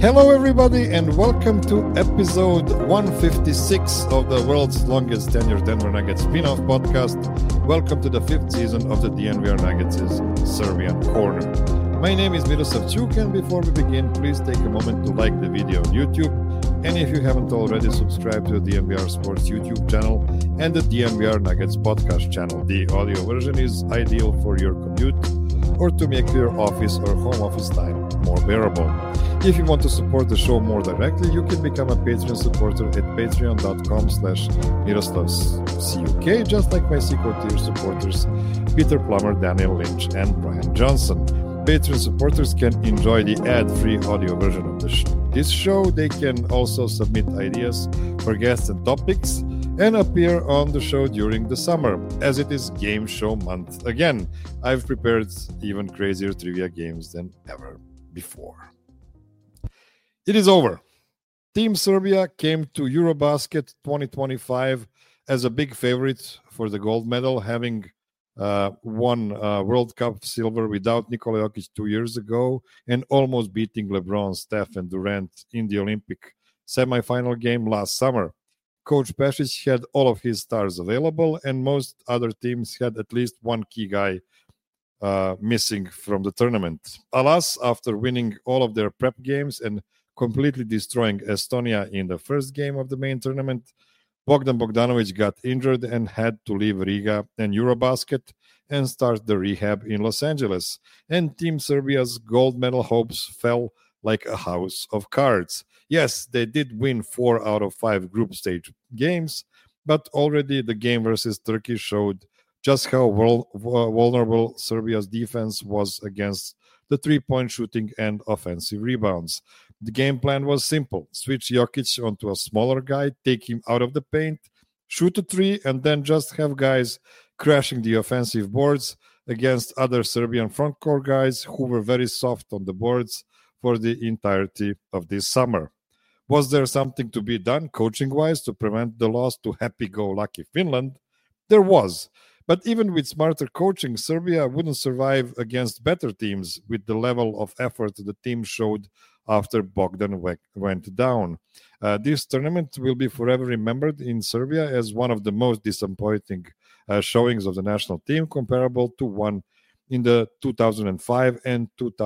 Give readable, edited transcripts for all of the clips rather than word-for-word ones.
Hello, everybody, and welcome to episode 156 of the world's longest tenured Denver Nuggets spin-off podcast. Welcome to the fifth season of the DNVR Nuggets' Serbian Corner. My name is Miroslav Čuk, and before we begin, please take a moment to like the video on YouTube. And if you haven't already, subscribe to the DNVR Sports YouTube channel and the DNVR Nuggets podcast channel. The audio version is ideal for your commute or to make your office or home office time more bearable. If you want to support the show more directly, you can become a Patreon supporter at patreon.com/MiroslavCuk, just like my secret tier supporters, Peter Plummer, Daniel Lynch, and Brian Johnson. Patreon supporters can enjoy the ad-free audio version of this show. They can also submit ideas for guests and topics and appear on the show during the summer, as it is game show month. Again, I've prepared even crazier trivia games than ever before. It is over. Team Serbia came to Eurobasket 2025 as a big favorite for the gold medal, having won World Cup silver without Nikola Jokic 2 years ago and almost beating LeBron, Steph, and Durant in the Olympic semifinal game last summer. Coach Pešić had all of his stars available, and most other teams had at least one key guy missing from the tournament. Alas, after winning all of their prep games and completely destroying Estonia in the first game of the main tournament, Bogdan Bogdanovic got injured and had to leave Riga and Eurobasket and start the rehab in Los Angeles. And Team Serbia's gold medal hopes fell like a house of cards. Yes, they did win 4 out of 5 group stage games, but already the game versus Turkey showed just how vulnerable Serbia's defense was against the three-point shooting and offensive rebounds. The game plan was simple. Switch Jokic onto a smaller guy, take him out of the paint, shoot a three, and then just have guys crashing the offensive boards against other Serbian frontcourt guys who were very soft on the boards for the entirety of this summer. Was there something to be done coaching-wise to prevent the loss to happy-go-lucky Finland? There was. But even with smarter coaching, Serbia wouldn't survive against better teams with the level of effort the team showed after Bogdan went down. This tournament will be forever remembered in Serbia as one of the most disappointing showings of the national team, comparable to one in the 2005 and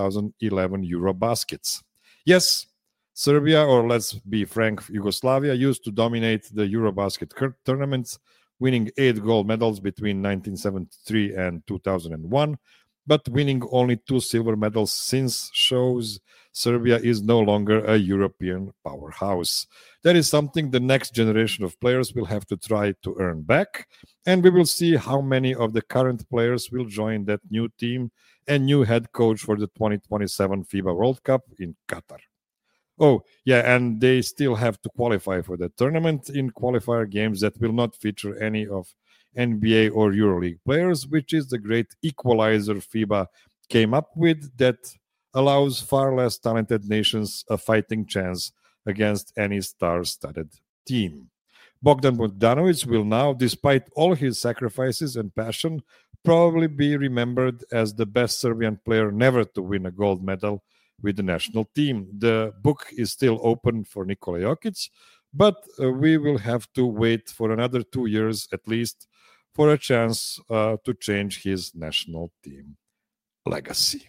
2011 Eurobaskets. Yes, Serbia, or let's be frank, Yugoslavia, used to dominate the Eurobasket tournaments, winning 8 gold medals between 1973 and 2001, but winning only 2 silver medals since shows Serbia is no longer a European powerhouse. That is something the next generation of players will have to try to earn back, and we will see how many of the current players will join that new team and new head coach for the 2027 FIBA World Cup in Qatar. Oh, yeah, and they still have to qualify for the tournament in qualifier games that will not feature any of NBA or EuroLeague players, which is the great equalizer FIBA came up with that allows far less talented nations a fighting chance against any star-studded team. Bogdan Bogdanovic will now, despite all his sacrifices and passion, probably be remembered as the best Serbian player never to win a gold medal with the national team. The book is still open for Nikola Jokic, but we will have to wait for another 2 years at least for a chance to change his national team legacy.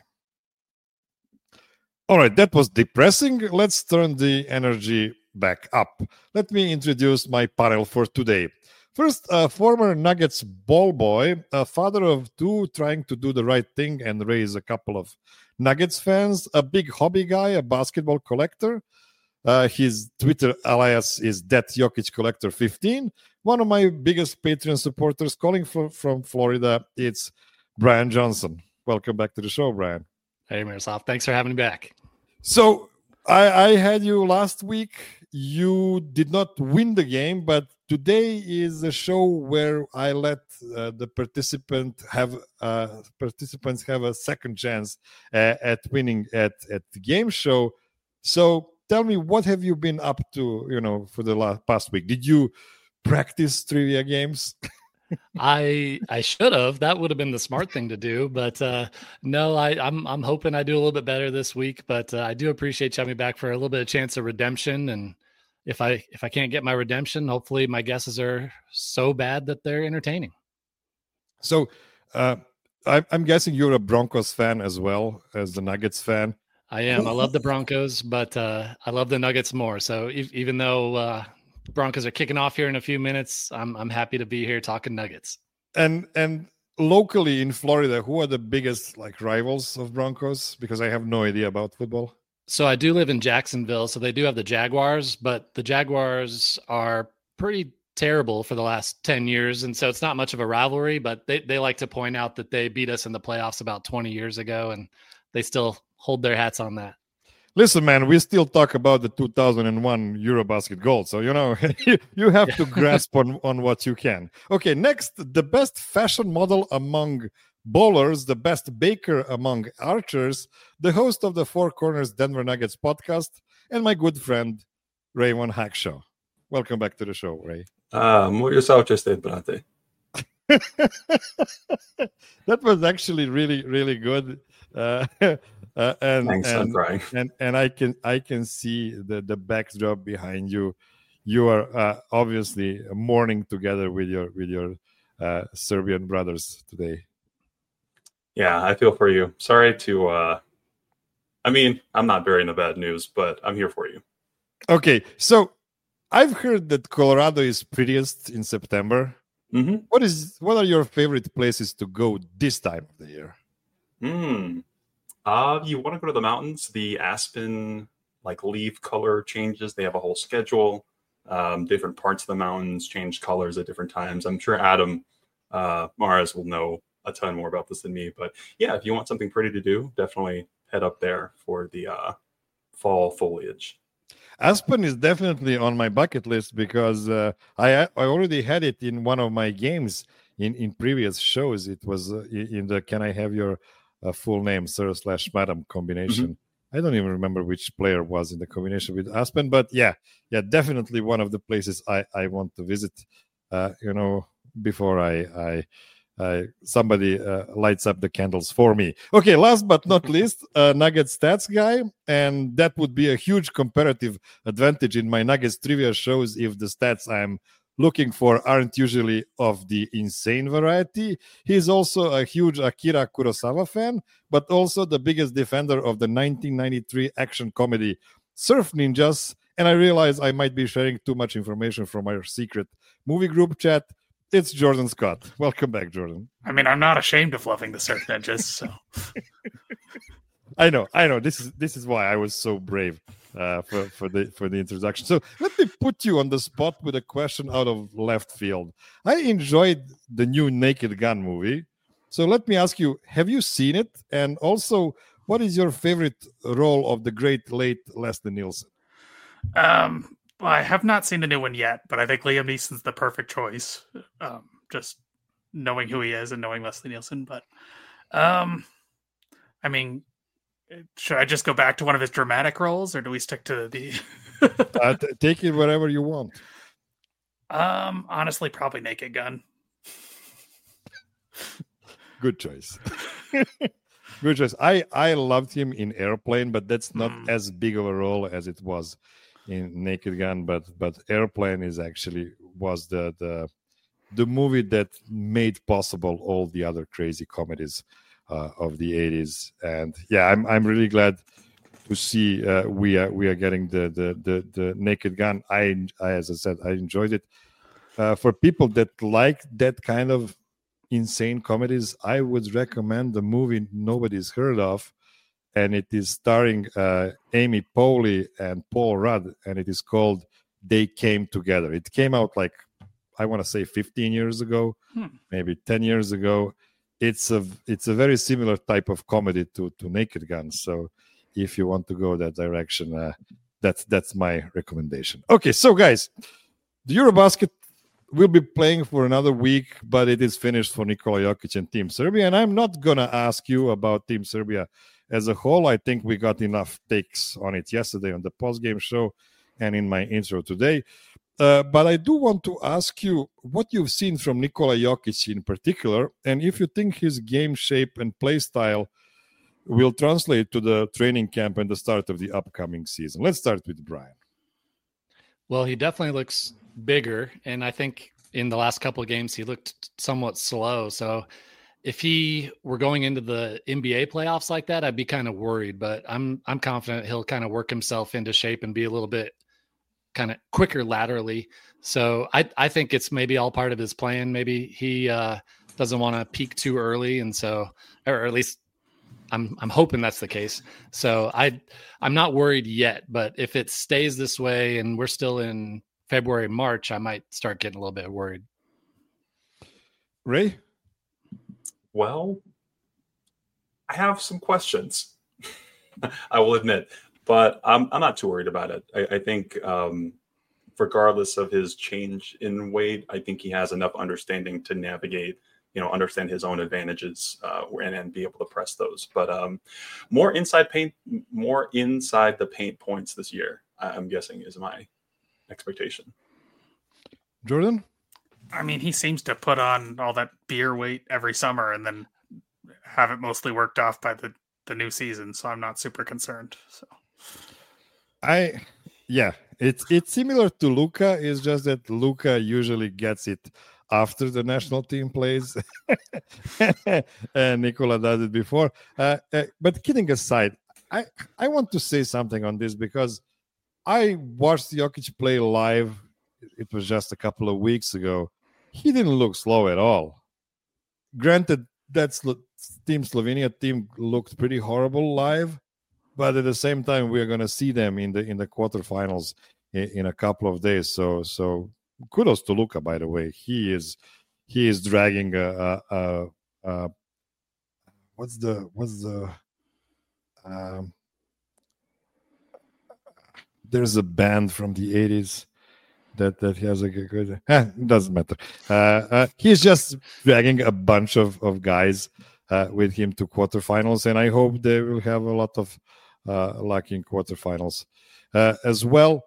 All right, that was depressing. Let's turn the energy back up. Let me introduce my panel for today. First, a former Nuggets ball boy, a father of 2 trying to do the right thing and raise a couple of Nuggets fans, a big hobby guy, a basketball collector. His Twitter alias is ThatJokicCollector15. One of my biggest Patreon supporters calling from Florida, it's Brian Johnson. Welcome back to the show, Brian. Hey, Miroslav. Thanks for having me back. So I had you last week. You did not win the game, but today is a show where I let the participants have a second chance at winning at the game show. So tell me, what have you been up to, for the past week? Did you practice trivia games? I should have. That would have been the smart thing to do. But no, I'm hoping I do a little bit better this week. But I do appreciate you having me back for a little bit of chance of redemption. And if I can't get my redemption, hopefully my guesses are so bad that they're entertaining. So I'm guessing you're a Broncos fan as well as the Nuggets fan. I am. I love the Broncos, but I love the Nuggets more. So even though Broncos are kicking off here in a few minutes, I'm happy to be here talking Nuggets. And locally in Florida, who are the biggest rivals of Broncos? Because I have no idea about football. So I do live in Jacksonville, so they do have the Jaguars, but the Jaguars are pretty terrible for the last 10 years. And so it's not much of a rivalry, but they like to point out that they beat us in the playoffs about 20 years ago, and they still hold their hats on that. Listen, man, we still talk about the 2001 Eurobasket gold. So, you have to grasp on what you can. Okay, next, the best fashion model among bowlers, the best baker among archers, the host of the Four Corners Denver Nuggets podcast, and my good friend, Raymond Hackshaw. Welcome back to the show, Ray. Muito saúde, brate. That was actually really, really good. Thanks, I'm crying. And I can see the backdrop behind you. You are obviously mourning together with your Serbian brothers today. Yeah, I feel for you. Sorry to. I'm not bearing the bad news, but I'm here for you. Okay, so I've heard that Colorado is prettiest in September. Mm-hmm. What are your favorite places to go this time of the year? You want to go to the mountains. The aspen leaf color changes. They have a whole schedule. Different parts of the mountains change colors at different times. I'm sure Adam Mares will know a ton more about this than me. But yeah, if you want something pretty to do, definitely head up there for the fall foliage. Aspen is definitely on my bucket list because I already had it in one of my games in previous shows. It was in the Can I Have Your Full Name, Sir/Madam combination. Mm-hmm. I don't even remember which player was in the combination with Aspen, but yeah, definitely one of the places I want to visit, before somebody lights up the candles for me. Okay, last but not least, Nuggets stats guy, and that would be a huge comparative advantage in my Nuggets trivia shows if the stats I'm looking for aren't usually of the insane variety. He's also a huge Akira Kurosawa fan, but also the biggest defender of the 1993 action comedy Surf Ninjas, and I realize I might be sharing too much information from our secret movie group chat. It's Jordan Scott. Welcome back, Jordan. I'm not ashamed of loving the Surf Ninjas. So. I know. This is why I was so brave for the introduction. So let me put you on the spot with a question out of left field. I enjoyed the new Naked Gun movie. So let me ask you: have you seen it? And also, what is your favorite role of the great late Leslie Nielsen? I have not seen the new one yet, but I think Liam Neeson's the perfect choice. Just knowing who he is and knowing Leslie Nielsen. But, should I just go back to one of his dramatic roles, or do we stick to the? Take it wherever you want. Honestly, probably Naked Gun. Good choice. Good choice. I loved him in Airplane, but that's not as big of a role as it was in Naked Gun, but Airplane was the movie that made possible all the other crazy comedies of the 80s. And yeah, I'm really glad to see we are getting the Naked Gun. As I said, I enjoyed it. For people that like that kind of insane comedies, I would recommend the movie nobody's heard of. And it is starring Amy Poehler and Paul Rudd, and it is called They Came Together. It came out I want to say 15 years ago, maybe 10 years ago. It's a very similar type of comedy to Naked Gun. So if you want to go that direction, that's my recommendation. Okay, so guys, the Eurobasket will be playing for another week, but it is finished for Nikola Jokic and Team Serbia. And I'm not going to ask you about Team Serbia as a whole. I think we got enough takes on it yesterday on the post-game show and in my intro today. But I do want to ask you what you've seen from Nikola Jokic in particular, and if you think his game shape and play style will translate to the training camp and the start of the upcoming season. Let's start with Brian. Well, he definitely looks bigger, and I think in the last couple of games he looked somewhat slow. So if he were going into the NBA playoffs like that, I'd be kind of worried, but I'm confident he'll kind of work himself into shape and be a little bit kind of quicker laterally. So I think it's maybe all part of his plan. Maybe he doesn't want to peak too early. And so, or at least I'm hoping that's the case. So I'm not worried yet, but if it stays this way and we're still in February, March, I might start getting a little bit worried. Ray? Well, I have some questions, I will admit, but I'm not too worried about it. I think regardless of his change in weight, I think he has enough understanding to navigate, understand his own advantages and be able to press those. But more inside the paint points this year, I'm guessing, is my expectation. Jordan? I mean, he seems to put on all that beer weight every summer and then have it mostly worked off by the new season. So I'm not super concerned. So it's similar to Luka. It's just that Luka usually gets it after the national team plays, and Nikola does it before. But kidding aside, I want to say something on this because I watched Jokic play live. It was just a couple of weeks ago. He didn't look slow at all. Granted, that Slovenia team looked pretty horrible live, but at the same time, we are going to see them in the quarterfinals in a couple of days. So kudos to Luka, by the way. He is dragging there's a band from the 80s that has a good it doesn't matter. He's just dragging a bunch of guys with him to quarterfinals, and I hope they will have a lot of luck in quarterfinals as well.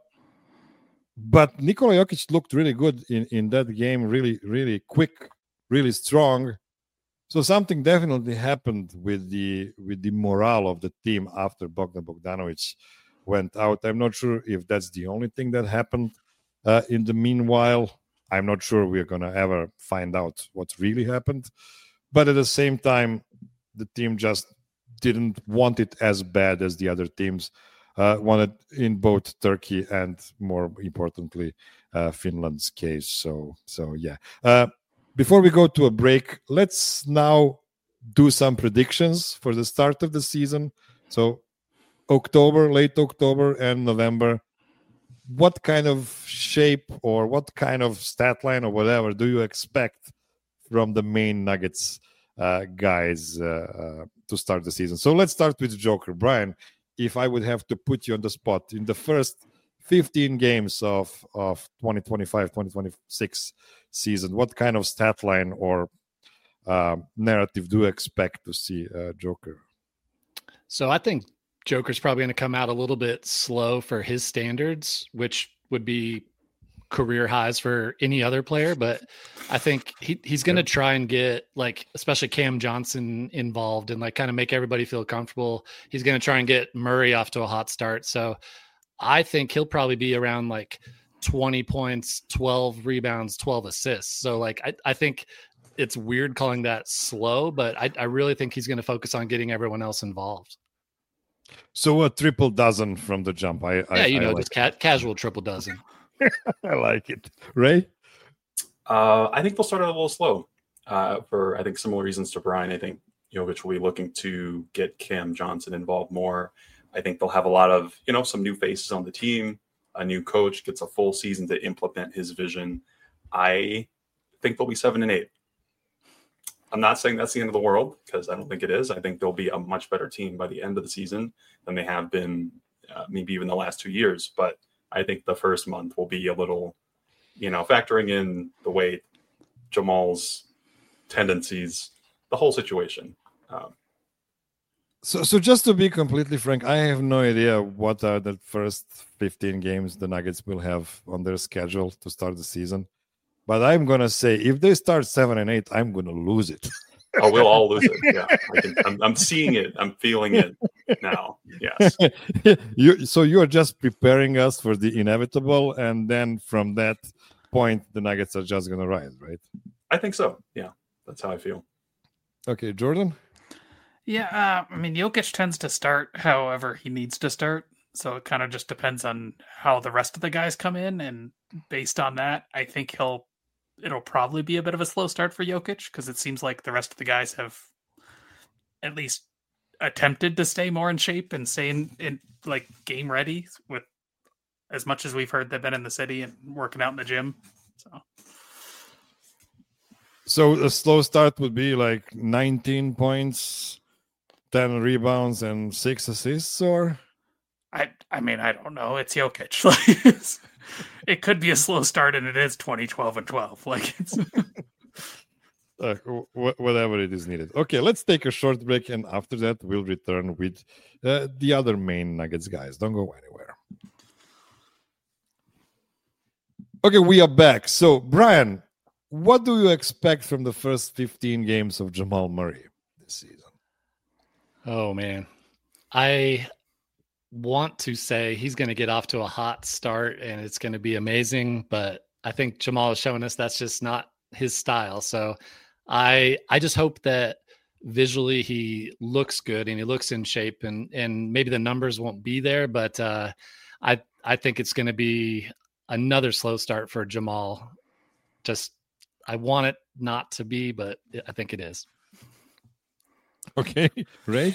But Nikola Jokic looked really good in that game, really, really quick, really strong. So something definitely happened with the morale of the team after Bogdan Bogdanovic went out. I'm not sure if that's the only thing that happened. In the meanwhile, I'm not sure we're going to ever find out what really happened. But at the same time, the team just didn't want it as bad as the other teams wanted in both Turkey and, more importantly, Finland's case. So yeah. Before we go to a break, let's now do some predictions for the start of the season. So late October and November. What kind of shape or what kind of stat line or whatever do you expect from the main Nuggets guys to start the season? So let's start with Joker. Brian, if I would have to put you on the spot in the first 15 games of 2025-2026 season, what kind of stat line or narrative do you expect to see Joker? So I think Joker's probably going to come out a little bit slow for his standards, which would be career highs for any other player. But I think he's going to try and get, like, especially Cam Johnson involved and like kind of make everybody feel comfortable. He's going to try and get Murray off to a hot start. So I think he'll probably be around like 20 points, 12 rebounds, 12 assists. So like, I think it's weird calling that slow, but I really think he's going to focus on getting everyone else involved. So a triple dozen from the jump. Just casual triple dozen. I like it. Ray? I think they'll start out a little slow for, I think, similar reasons to Brian. I think Jokic will be looking to get Cam Johnson involved more. I think they'll have a lot of, some new faces on the team. A new coach gets a full season to implement his vision. I think they'll be 7-8. I'm not saying that's the end of the world, because I don't think it is. I think they'll be a much better team by the end of the season than they have been maybe even the last 2 years. But I think the first month will be a little, factoring in the weight, Jamal's tendencies, the whole situation. So just to be completely frank, I have no idea what are the first 15 games the Nuggets will have on their schedule to start the season. But I'm going to say if they start 7-8, I'm going to lose it. Oh, we'll all lose it. Yeah, I'm seeing it. I'm feeling it now. Yes. So you are just preparing us for the inevitable, and then from that point, the Nuggets are just going to rise, right? I think so. Yeah, that's how I feel. Okay, Jordan? Yeah, I mean, Jokic tends to start however he needs to start. So it kind of just depends on how the rest of the guys come in. And based on that, I think it'll probably be a bit of a slow start for Jokic because it seems like the rest of the guys have at least attempted to stay more in shape and stay in like game ready with as much as we've heard they've been in the city and working out in the gym. So a slow start would be like 19 points, 10 rebounds, and 6 assists, or? I mean, I don't know. It's Jokic. It could be a slow start, and it is 2012 and 12. Like it's whatever it is needed. Okay, let's take a short break, and after that, we'll return with the other main Nuggets guys. Don't go anywhere. Okay, we are back. So, Brian, what do you expect from the first 15 games of Jamal Murray this season? Oh, man. I want to say he's going to get off to a hot start and it's going to be amazing, but I think Jamal is showing us that's just not his style. So I just hope that visually he looks good and he looks in shape, and maybe the numbers won't be there, but I think it's going to be another slow start for Jamal. Just I want it not to be, but I think it is. Okay, Ray?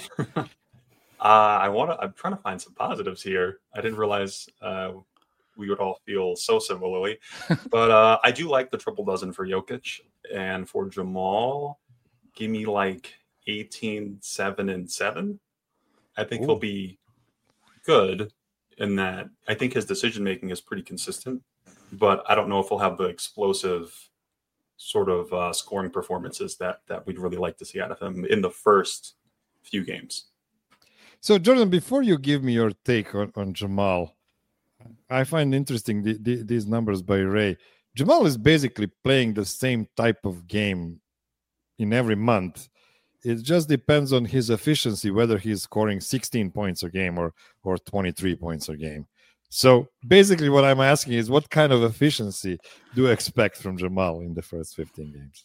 I'm trying to find some positives here. I didn't realize we would all feel so similarly, but I do like the triple dozen for Jokic, and for Jamal, give me like 18, 7, and 7. I think he'll be good in that. I think his decision making is pretty consistent, but I don't know if he'll have the explosive sort of scoring performances that we'd really like to see out of him in the first few games. So, Jordan, before you give me your take on Jamal, I find interesting these numbers by Ray. Jamal is basically playing the same type of game in every month. It just depends on his efficiency, whether he's scoring 16 points a game or 23 points a game. So basically what I'm asking is what kind of efficiency do you expect from Jamal in the first 15 games?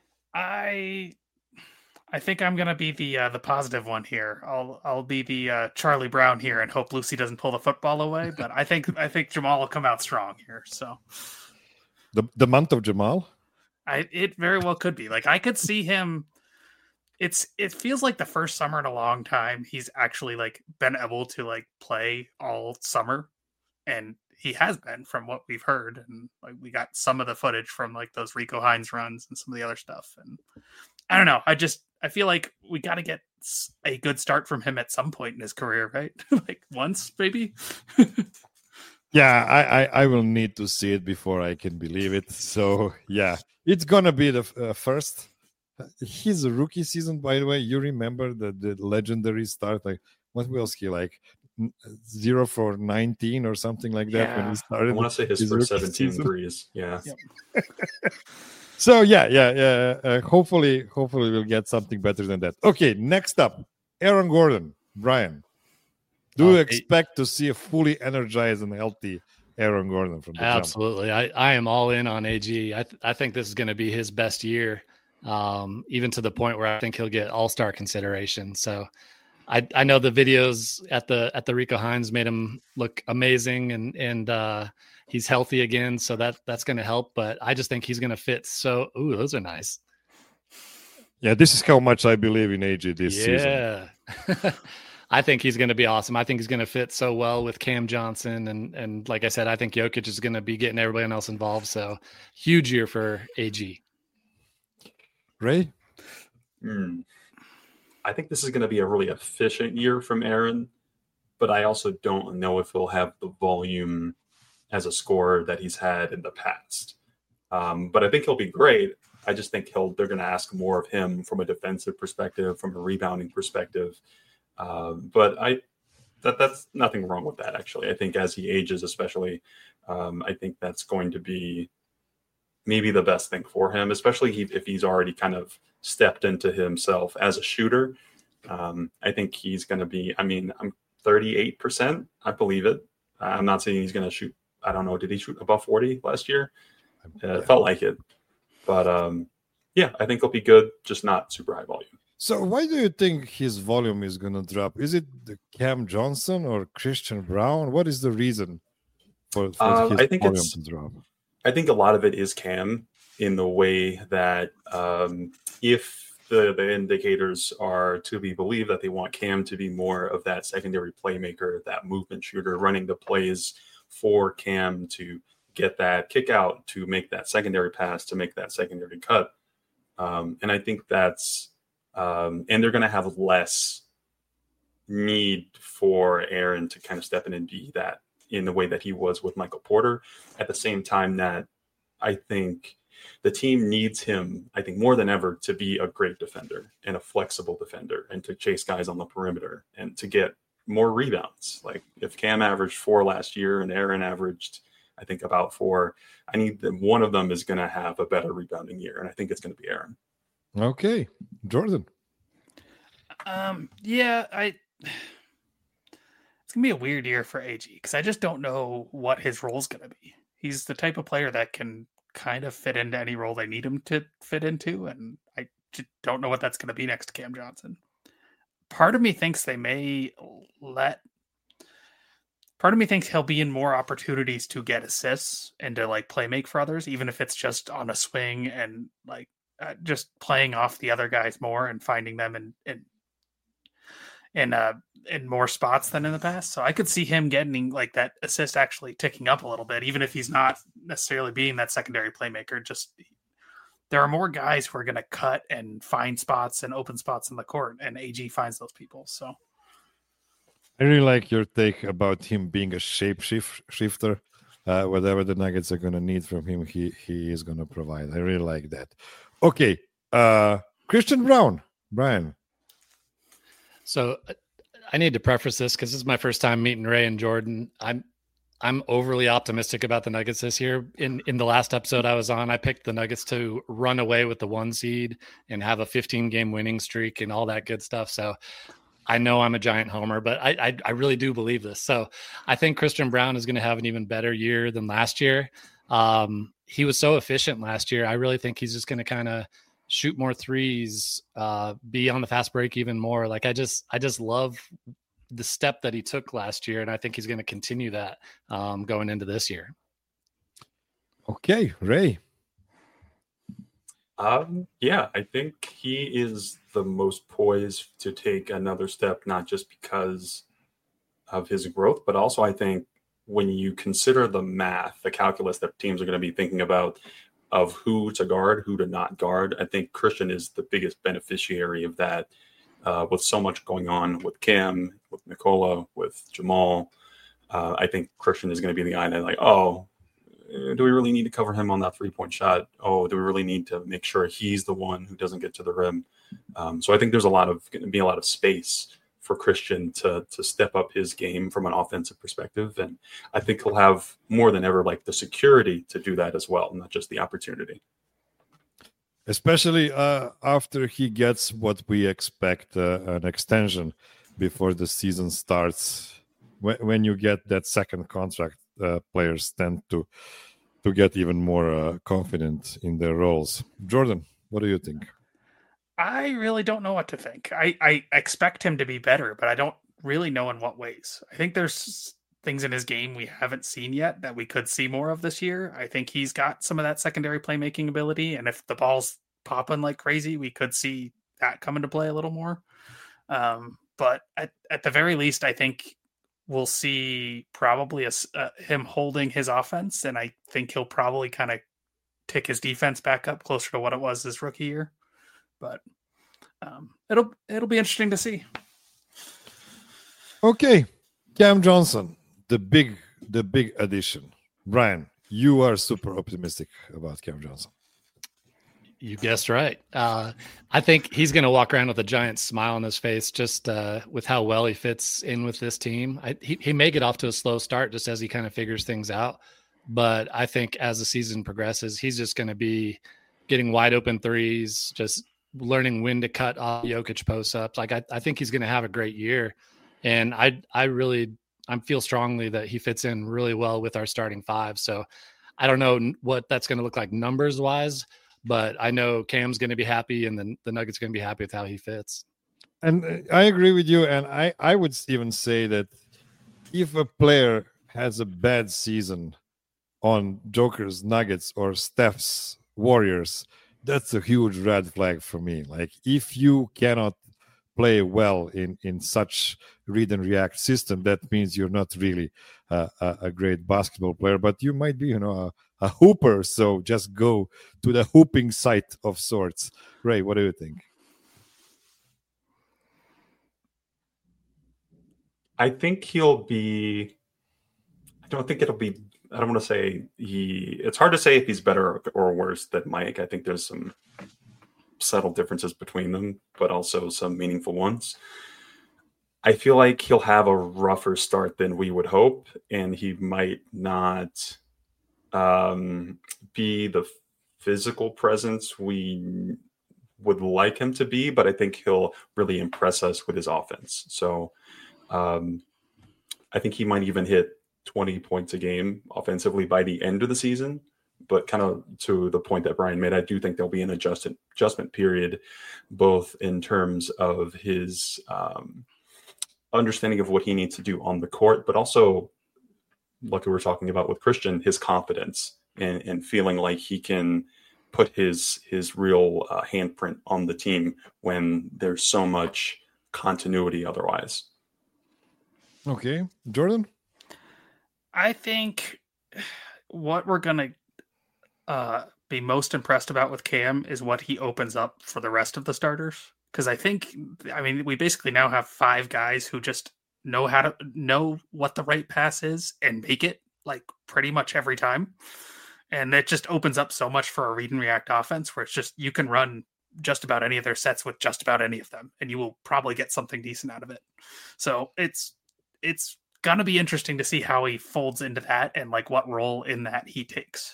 I think I'm gonna be the positive one here. I'll be the Charlie Brown here and hope Lucy doesn't pull the football away. But I think Jamal will come out strong here. So the month of Jamal, it very well could be. Like I could see him. It feels like the first summer in a long time he's actually like been able to like play all summer, and he has been from what we've heard. And like we got some of the footage from like those Rico Hines runs and some of the other stuff. And I don't know. I feel like we got to get a good start from him at some point in his career, right? Like once, maybe. Yeah, I will need to see it before I can believe it. So, yeah, it's going to be the first. His rookie season, by the way, you remember the legendary start? Like, what was he like? 0 for 19 or something like that when he started. I want to say his first 17 threes. Yeah. Yep. So yeah. Hopefully we'll get something better than that. Okay, next up, Aaron Gordon. Brian, do you expect to see a fully energized and healthy Aaron Gordon from the Absolutely. jump? I am all in on AG. I think this is going to be his best year, even to the point where I think he'll get all-star consideration. So I know the videos at the Rico Hines made him look amazing, and he's healthy again, so that's going to help. But I just think he's going to fit. So, those are nice. Yeah, this is how much I believe in AJ this season. Yeah. I think he's going to be awesome. I think he's going to fit so well with Cam Johnson. And like I said, I think Jokic is going to be getting everybody else involved. So huge year for AG. Ray? I think this is going to be a really efficient year from Aaron, but I also don't know if he'll have the volume as a scorer that he's had in the past. But I think he'll be great. I just think they're going to ask more of him from a defensive perspective, from a rebounding perspective. But that's nothing wrong with that, actually. I think as he ages, especially, I think that's going to be maybe the best thing for him, especially if he's already kind of stepped into himself as a shooter. I think he's going to be, I mean, I'm 38%. I believe it. I'm not saying he's going to shoot. I don't know. Did he shoot above 40 last year? It felt like it. But yeah, I think he'll be good, just not super high volume. So why do you think his volume is going to drop? Is it the Cam Johnson or Christian Braun? What is the reason for his volume to drop? I think a lot of it is Cam, in the way that if the indicators are to be believed that they want Cam to be more of that secondary playmaker, that movement shooter, running the plays for Cam to get that kick out, to make that secondary pass, to make that secondary cut. And I think that's, and they're going to have less need for Aaron to kind of step in and be that in the way that he was with Michael Porter. At the same time that I think the team needs him, I think more than ever, to be a great defender and a flexible defender and to chase guys on the perimeter and to get more rebounds. Like if Cam averaged 4 last year and Aaron averaged, I think, about 4, I need them. One of them is going to have a better rebounding year, and I think it's going to be Aaron. Okay. Jordan. Yeah, it's going to be a weird year for AG because I just don't know what his role is going to be. He's the type of player that can kind of fit into any role they need him to fit into, and I just don't know what that's going to be next to Cam Johnson. Part of me thinks they may part of me thinks he'll be in more opportunities to get assists and to like play make for others, even if it's just on a swing and like just playing off the other guys more and finding them in more spots than in the past. So I could see him getting like that assist actually ticking up a little bit, even if he's not necessarily being that secondary playmaker. Just there are more guys who are going to cut and find spots and open spots in the court, and AG finds those people. So I really like your take about him being a shapeshifter. Whatever the Nuggets are going to need from him, he is going to provide. I really like that. Okay, Christian Braun, Brian. So I need to preface this because this is my first time meeting Ray and Jordan. I'm overly optimistic about the Nuggets this year. In the last episode I was on, I picked the Nuggets to run away with the 1 seed and have a 15-game winning streak and all that good stuff. So I know I'm a giant homer, but I really do believe this. So I think Christian Braun is going to have an even better year than last year. He was so efficient last year. I really think he's just going to kind of shoot more threes, be on the fast break even more. Like I just love the step that he took last year, and I think he's going to continue that going into this year. Okay, Ray. Yeah, I think he is the most poised to take another step, not just because of his growth, but also I think when you consider the math, the calculus that teams are going to be thinking about of who to guard, who to not guard, I think Christian is the biggest beneficiary of that. With so much going on with Cam, with Nikola, with Jamal, I think Christian is going to be the guy that like, oh, do we really need to cover him on that 3-point shot? Oh, do we really need to make sure he's the one who doesn't get to the rim? So I think there's going to be a lot of space for Christian to step up his game from an offensive perspective. And I think he'll have more than ever like the security to do that as well, not just the opportunity. Especially after he gets what we expect, an extension before the season starts. When you get that second contract, players tend to get even more confident in their roles. Jordan, what do you think? I really don't know what to think. I expect him to be better, but I don't really know in what ways. I think there's things in his game we haven't seen yet that we could see more of this year. I think he's got some of that secondary playmaking ability, and if the ball's popping like crazy, we could see that come into play a little more. But at the very least, I think we'll see probably him holding his offense, and I think he'll probably kind of tick his defense back up closer to what it was his rookie year. But it'll be interesting to see. Okay, Cam Johnson, the big addition. Brian, you are super optimistic about Cam Johnson. You guessed right. I think he's going to walk around with a giant smile on his face just with how well he fits in with this team. He may get off to a slow start just as he kind of figures things out. But I think as the season progresses, he's just going to be getting wide open threes, just learning when to cut off Jokic post-ups. Like I think he's going to have a great year. And I feel strongly that he fits in really well with our starting five. So I don't know what that's going to look like numbers wise, but I know Cam's going to be happy and then the Nuggets going to be happy with how he fits. And I agree with you. And I would even say that if a player has a bad season on Joker's Nuggets or Steph's Warriors, that's a huge red flag for me. Like if you cannot play well in such read and react system, that means you're not really a great basketball player, but you might be, a hooper. So just go to the hooping site of sorts. Ray, what do you think? I think he'll be. I don't think it'll be. I don't want to say it's hard to say if he's better or worse than Mike. I think there's some subtle differences between them, but also some meaningful ones. I feel like he'll have a rougher start than we would hope, and he might not be the physical presence we would like him to be, but I think he'll really impress us with his offense. So I think he might even hit 20 points a game offensively by the end of the season. But kind of to the point that Brian made, I do think there'll be an adjustment period, both in terms of his understanding of what he needs to do on the court, but also, like we were talking about with Christian, his confidence and feeling like he can put his real handprint on the team when there's so much continuity otherwise. Okay. Jordan? I think what we're going to be most impressed about with Cam is what he opens up for the rest of the starters. Because we basically now have 5 guys who just know what the right pass is and make it like pretty much every time. And it just opens up so much for a read and react offense where it's just, you can run just about any of their sets with just about any of them, and you will probably get something decent out of it. So it's going to be interesting to see how he folds into that and like what role in that he takes.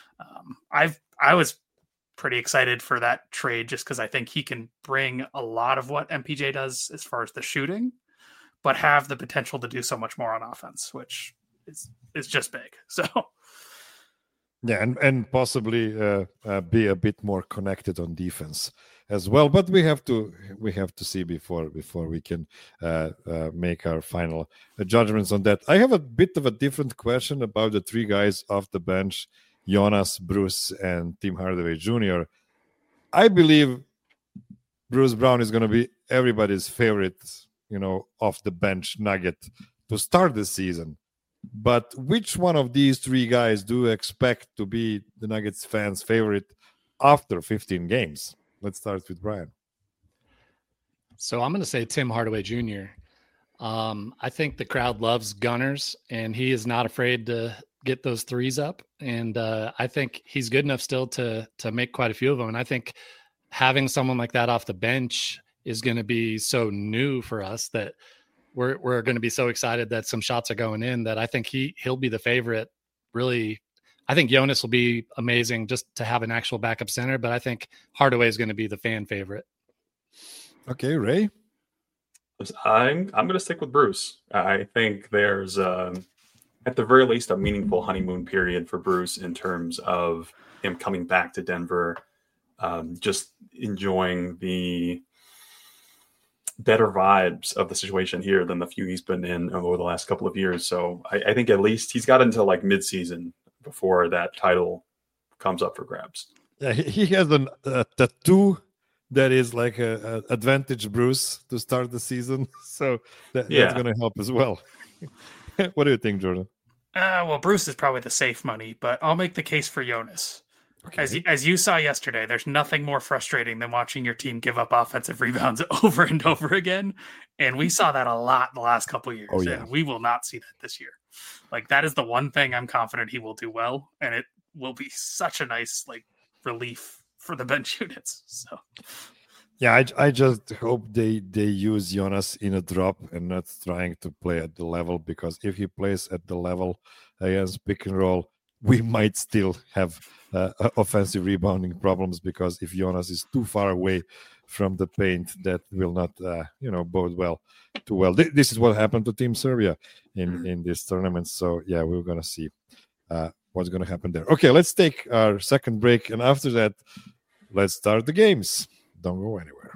I was pretty excited for that trade just because I think he can bring a lot of what MPJ does as far as the shooting, but have the potential to do so much more on offense, which is just big. So yeah, and possibly be a bit more connected on defense as well. But we have to see before we can make our final judgments on that. I have a bit of a different question about the 3 guys off the bench: Jonas, Bruce, and Tim Hardaway Jr. I believe Bruce Brown is going to be everybody's favorite, off the bench nugget to start the season. But which one of these 3 guys do you expect to be the Nuggets fans' favorite after 15 games? Let's start with Brian. So I'm going to say Tim Hardaway Jr. I think the crowd loves gunners, and he is not afraid to get those threes up. And I think he's good enough still to make quite a few of them. And I think having someone like that off the bench is going to be so new for us that we're going to be so excited that some shots are going in that I think he'll be the favorite. Really, I think Jonas will be amazing just to have an actual backup center, but I think Hardaway is going to be the fan favorite. Okay, Ray? I'm going to stick with Bruce. I think there's at the very least a meaningful honeymoon period for Bruce in terms of him coming back to Denver, just enjoying the better vibes of the situation here than the few he's been in over the last couple of years. So I think at least he's got until like mid-season before that title comes up for grabs. Yeah, he has a tattoo that is like a advantage Bruce to start the season. So that's going to help as well. What do you think, Jordan? Well, Bruce is probably the safe money, but I'll make the case for Jonas. Okay. As you saw yesterday, there's nothing more frustrating than watching your team give up offensive rebounds over and over again. And we saw that a lot in the last couple of years. Oh, yeah. And we will not see that this year. Like, that is the one thing I'm confident he will do well. And it will be such a nice, like, relief for the bench units. So Yeah, I just hope they use Jonas in a drop and not trying to play at the level, because if he plays at the level against pick and roll, we might still have offensive rebounding problems, because if Jonas is too far away from the paint, that will not bode well too well. This is what happened to Team Serbia in this tournament. So yeah, we're gonna see what's gonna happen there. Okay, let's take our second break, and after that, let's start the games. Don't go anywhere.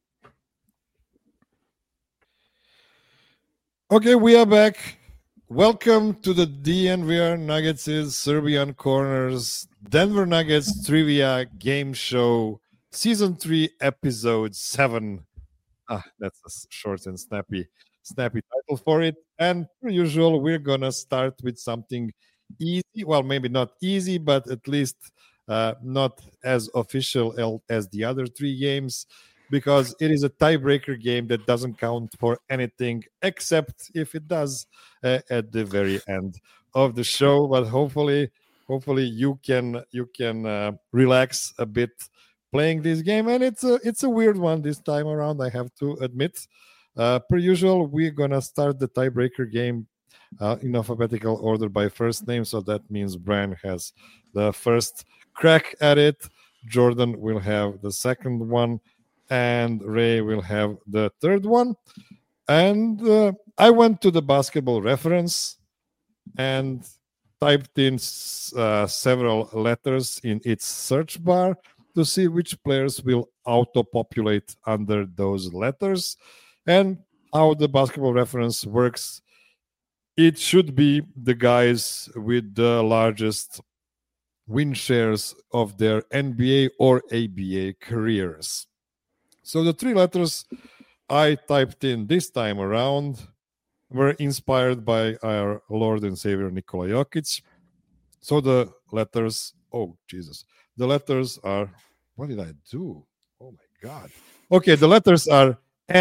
Okay, we are back. Welcome to the DNVR Nuggets' Serbian Corners Denver Nuggets Trivia Game Show, Season 3, Episode 7. That's a short and snappy title for it. And per usual, we're going to start with something easy. Well, maybe not easy, but at least not as official as the other 3 games, because it is a tiebreaker game that doesn't count for anything, except if it does at the very end of the show. But hopefully you can relax a bit playing this game, and it's a weird one this time around, I have to admit. Per usual, we're gonna start the tiebreaker game in alphabetical order by first name, so that means Brian has the first crack at it, Jordan will have the second one, and Ray will have the third one. And I went to the Basketball Reference and typed in several letters in its search bar to see which players will auto-populate under those letters. And how the Basketball Reference works, it should be the guys with the largest win shares of their NBA or ABA careers. So the 3 letters I typed in this time around were inspired by our Lord and Savior Nikola Jokic. So the letters, the letters are, what did I do? Oh my God. Okay, the letters are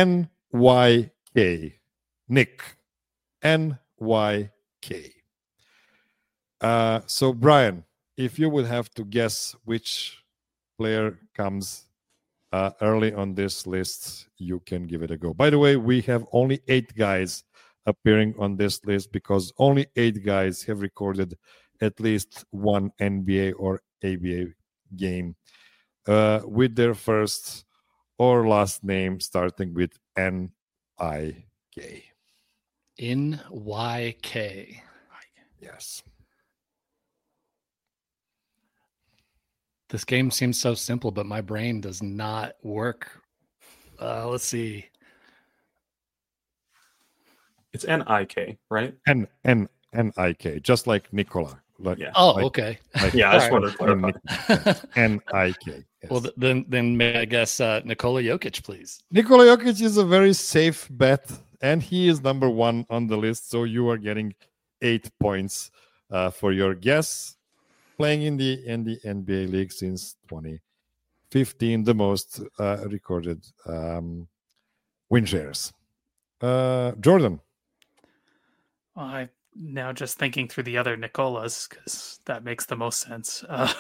NYK. Nick. NYK. So Brian, if you would have to guess which player comes early on this list, you can give it a go. By the way, we have only 8 guys appearing on this list, because only 8 guys have recorded at least one NBA or ABA game with their first or last name starting with NIK. NYK. Yes. This game seems so simple, but my brain does not work. Let's see. It's NIK, right? NIK, just like Nikola. Okay. Yeah, I just wanted to clarify. NIK. Yes. Well, then may I guess Nikola Jokic, please? Nikola Jokic is a very safe bet, and he is number 1 on the list. So you are getting 8 points for your guess. Playing in the NBA league since 2015, the most recorded win shares. Jordan. Well, I'm now just thinking through the other Nicolas, because that makes the most sense.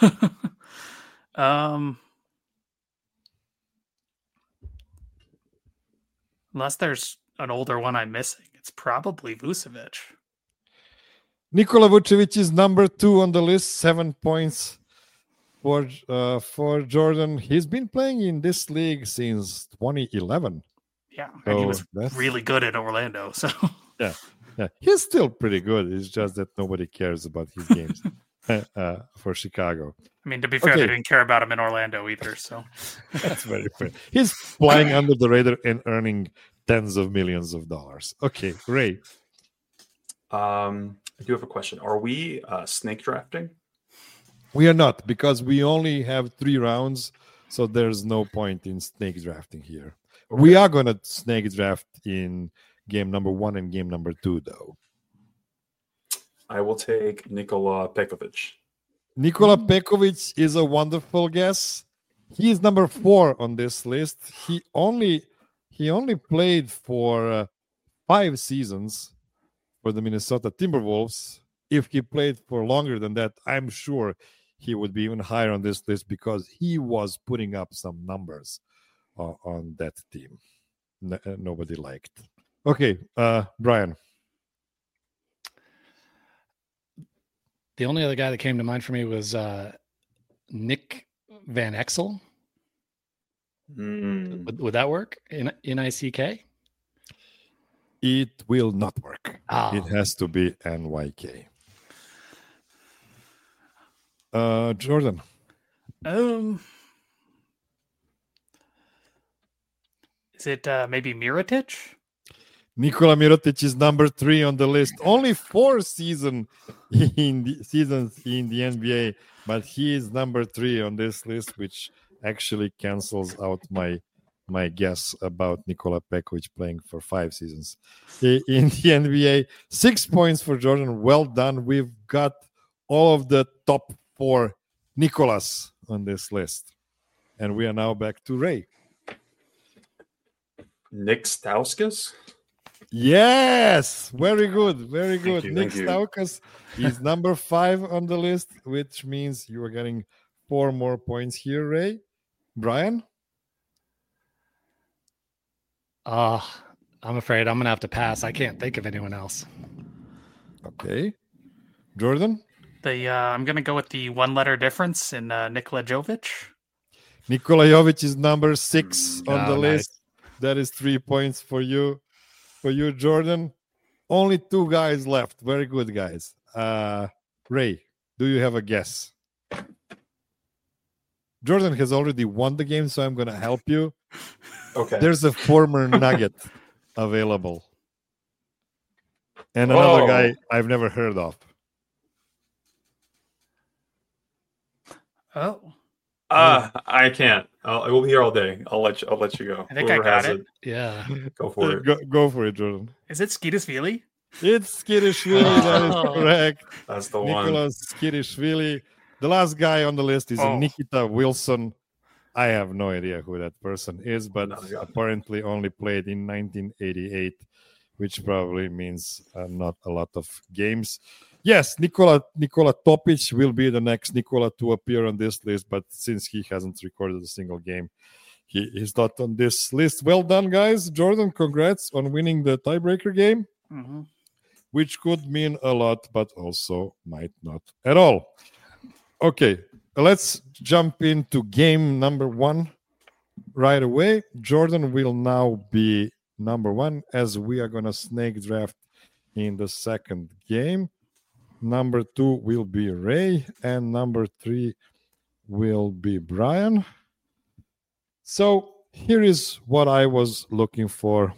Unless there's an older one I'm missing, it's probably Vucevic. Nikola Vucevic is number 2 on the list, 7 points for Jordan. He's been playing in this league since 2011. Yeah, and he was really good in Orlando. So yeah, he's still pretty good. It's just that nobody cares about his games for Chicago. I mean, to be fair, they didn't care about him in Orlando either. So that's very fair. He's flying under the radar and earning tens of millions of dollars. Okay, Ray. I do have a question. Are we snake drafting? We are not, because we only have 3 rounds, so there's no point in snake drafting here. Okay. We are going to snake draft in game number 1 and game number 2, though. I will take Nikola Pekovic. Nikola Pekovic is a wonderful guess. He is number 4 on this list. He only played for 5 seasons for the Minnesota Timberwolves. If he played for longer than that, I'm sure he would be even higher on this list because he was putting up some numbers on that team. Nobody liked. Okay, Brian. The only other guy that came to mind for me was Nick Van Exel. Would that work? Nick? It will not work. Oh. It has to be NYK. Jordan. Is it maybe Mirotic? Nikola Mirotic is number 3 on the list. Only 4 seasons in the NBA, but he is number 3 on this list, which actually cancels out my guess about Nikola Pekovic playing for 5 seasons in the NBA. 6 points for Jordan. Well done. We've got all of the top 4 Nikolas on this list. And we are now back to Ray. Nick Stauskas? Yes, very good, very good. Nick Thank you. Stauskas is number 5 on the list, which means you are getting 4 more points here, Ray. Brian? I'm afraid I'm going to have to pass. I can't think of anyone else. Okay. Jordan? I'm going to go with the 1-letter difference in Nikola Jovic. Nikola Jovic is number 6 on the nice. list. That is 3 points for you. For you, Jordan. Only 2 guys left. Very good, guys. Ray, do you have a guess? Jordan has already won the game, so I'm going to help you. Okay. There's a former Nugget available. And another guy I've never heard of. Oh. I can't. I will be here all day. I'll let you go. I think Whoever I got has it. Yeah. Go for it. Go for it, Jordan. Is it Skidishvili? It's Skidishvili. That is correct. That's the one. Nicholas Skidishvili. The last guy on the list is Nikita Wilson. I have no idea who that person is, but apparently only played in 1988, which probably means not a lot of games. Yes, Nikola Topic will be the next Nikola to appear on this list, but since he hasn't recorded a single game, he's not on this list. Well done, guys. Jordan, congrats on winning the tiebreaker game, which could mean a lot, but also might not at all. Okay, let's jump into game number 1 right away. Jordan will now be number 1 as we are going to snake draft in the second game. Number 2 will be Ray, and number 3 will be Brian. So here is what I was looking for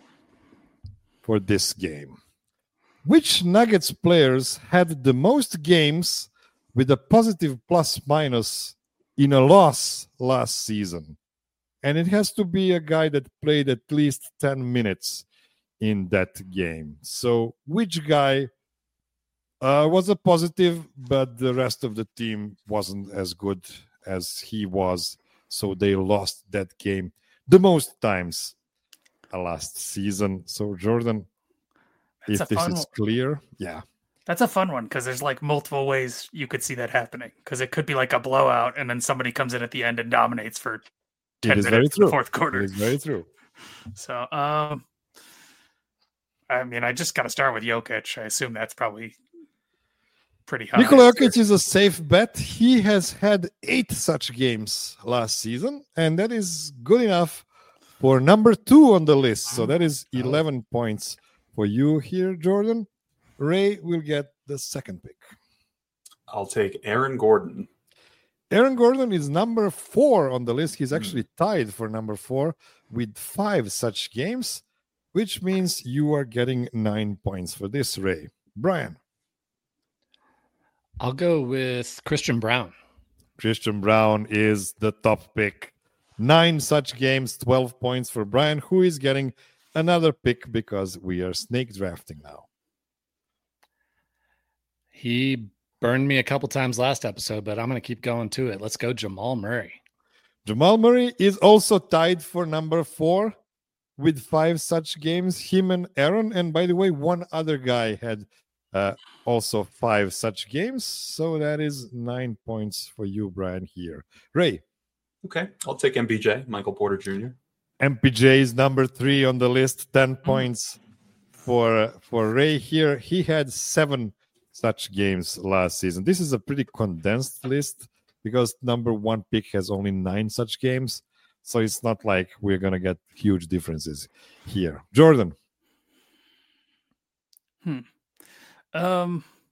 this game. Which Nuggets players had the most games with a positive plus-minus in a loss last season? And it has to be a guy that played at least 10 minutes in that game. So which guy was a positive, but the rest of the team wasn't as good as he was, so they lost that game the most times last season. So Jordan, if this is clear, yeah. That's a fun one because there's like multiple ways you could see that happening. Because it could be like a blowout, and then somebody comes in at the end and dominates for 10 minutes in the fourth quarter. It is very true. So, I mean, I just got to start with Jokic. I assume that's probably pretty high. Nikola Jokic is a safe bet. He has had 8 such games last season, and that is good enough for number 2 on the list. So that is 11 points for you here, Jordan. Ray will get the second pick. I'll take Aaron Gordon. Aaron Gordon is number 4 on the list. He's actually tied for number 4 with 5 such games, which means you are getting 9 points for this, Ray. Brian. I'll go with Christian Braun. Christian Braun is the top pick. 9 such games, 12 points for Brian, who is getting another pick because we are snake drafting now. He burned me a couple times last episode, but I'm going to keep going to it. Let's go Jamal Murray. Jamal Murray is also tied for number 4 with 5 such games. Him and Aaron. And by the way, one other guy had also 5 such games. So that is 9 points for you, Brian, here. Ray. Okay, I'll take MPJ, Michael Porter Jr. MPJ is number 3 on the list. 10 points for Ray here. He had 7 such games last season. This is a pretty condensed list because number 1 pick has only 9 such games. So it's not like we're going to get huge differences here. Jordan. I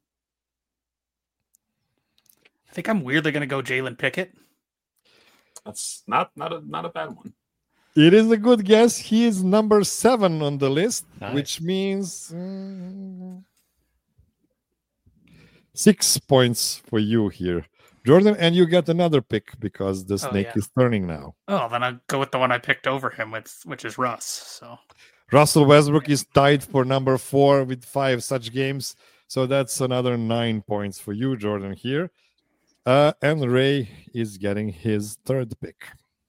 think I'm weirdly going to go Jalen Pickett. That's not a bad one. It is a good guess. He is number 7 on the list, which means 6 points for you here, Jordan. And you get another pick because the snake is turning now. Oh, then I'll go with the one I picked over him, which is Russ. So Russell Westbrook is tied for number 4 with 5 such games. So that's another 9 points for you, Jordan, here. And Ray is getting his 3rd pick.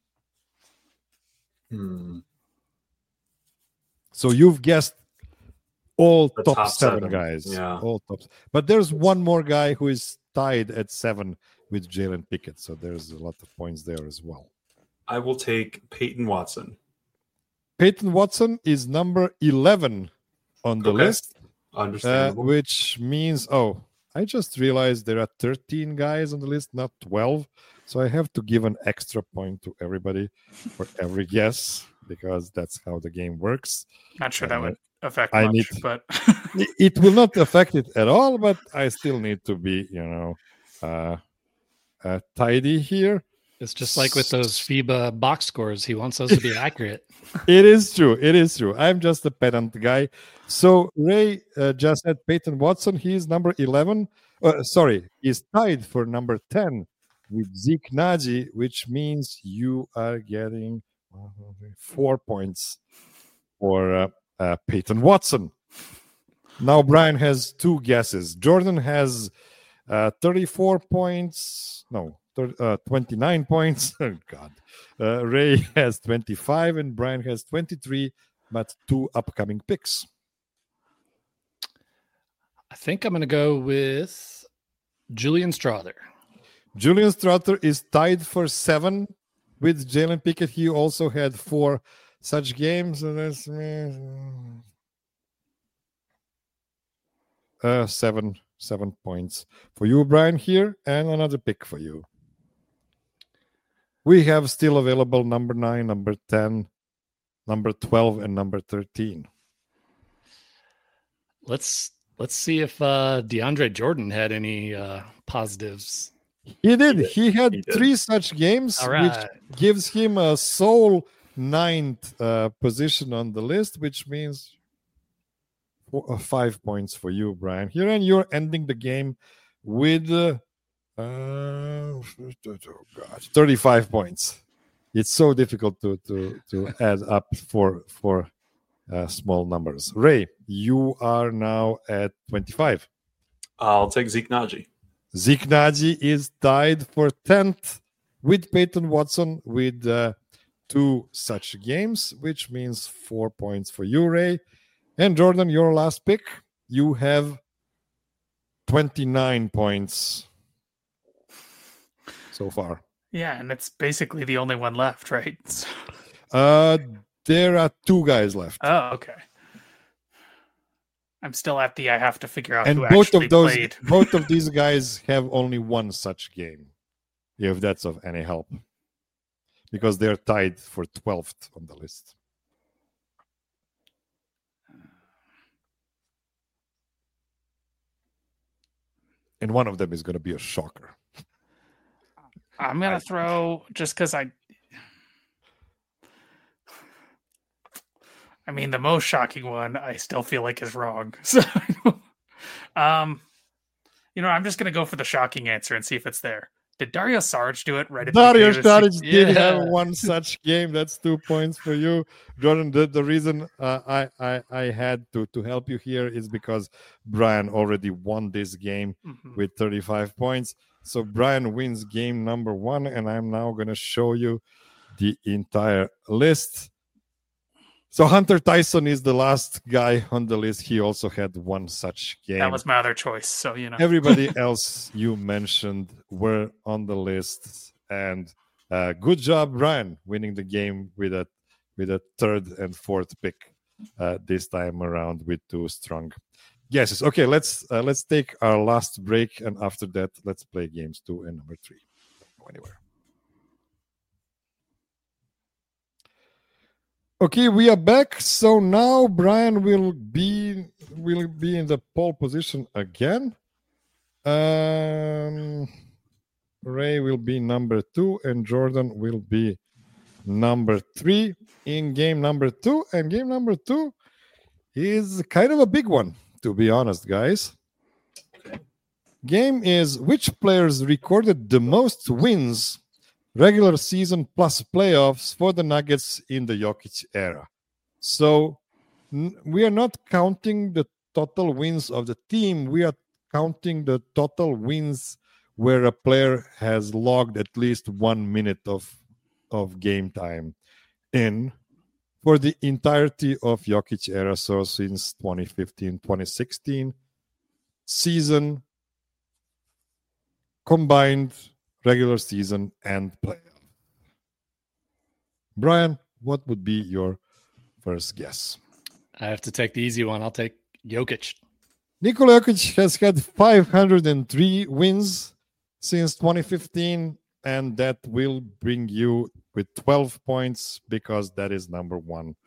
So you've guessed all the top 7 guys. Yeah. All tops. But there's one more guy who is tied at 7 with Jalen Pickett. So there's a lot of points there as well. I will take Peyton Watson. Peyton Watson is number 11 on the list. Understandable. Which means, I just realized there are 13 guys on the list, not 12. So I have to give an extra point to everybody for every guess because that's how the game works. Not sure that would affect much, but it will not affect it at all. But I still need to be, tidy here. It's just like with those FIBA box scores. He wants those to be accurate. It is true. I'm just a pedant guy. So Ray just said Peyton Watson. He's number 11. He's tied for number 10 with Zeke Naji, which means you are getting 4 points for Peyton Watson. Now Brian has 2 guesses. Jordan has 34 points. No. 29 points. Oh, God. Ray has 25 and Brian has 23, but 2 upcoming picks. I think I'm going to go with Julian Strawther. Julian Strawther is tied for 7 with Jalen Pickett. He also had 4 such games. So that's 7 points for you, Brian, here, and another pick for you. We have still available number 9, number 10, number 12, and number 13. Let's see if DeAndre Jordan had any positives. He did. He had 3 such games, which gives him a sole 9th position on the list, which means 5 points for you, Brian. Here, and you're ending the game with 35 points. It's so difficult to add up for small numbers. Ray, you are now at 25. I'll take Zeke Naji. Zeke Naji is tied for 10th with Peyton Watson with 2 such games, which means 4 points for you, Ray. And Jordan, your last pick, you have 29 points so far. Yeah, and it's basically the only one left, right? There are 2 guys left. Oh, okay. I'm still at I have to figure out and who both actually of those, played. Both of these guys have only 1 such game, if that's of any help, because they're tied for 12th on the list. And one of them is going to be a shocker. I'm going to throw, just because I mean, the most shocking one I still feel like is wrong. So, I'm just going to go for the shocking answer and see if it's there. Did Dario Saric do it right at Dario the beginning? Saric did have 1 such game. That's 2 points for you, Jordan. The reason I had to help you here is because Brian already won this game with 35 points. So Brian wins game number 1, and I'm now going to show you the entire list. So Hunter Tyson is the last guy on the list. He also had one such game. That was my other choice. So, Everybody else you mentioned were on the list. And good job, Brian, winning the game with a third and fourth pick this time around with two strong guesses. Okay, let's take our last break. And after that, let's play games 2 and number 3. Don't go anywhere. Okay, we are back. So now Brian will be in the pole position again. Ray will be number 2, and Jordan will be number 3 in game number 2. And game number 2 is kind of a big one, to be honest, guys. Game is which players recorded the most wins regular season plus playoffs for the Nuggets in the Jokic era. So we are not counting the total wins of the team. We are counting the total wins where a player has logged at least 1 minute of game time in for the entirety of Jokic era. So since 2015-2016 season combined regular season and playoff. Brian, what would be your first guess? I have to take the easy one. I'll take Jokic. Nikola Jokic has had 503 wins since 2015, and that will bring you with 12 points because that is number 1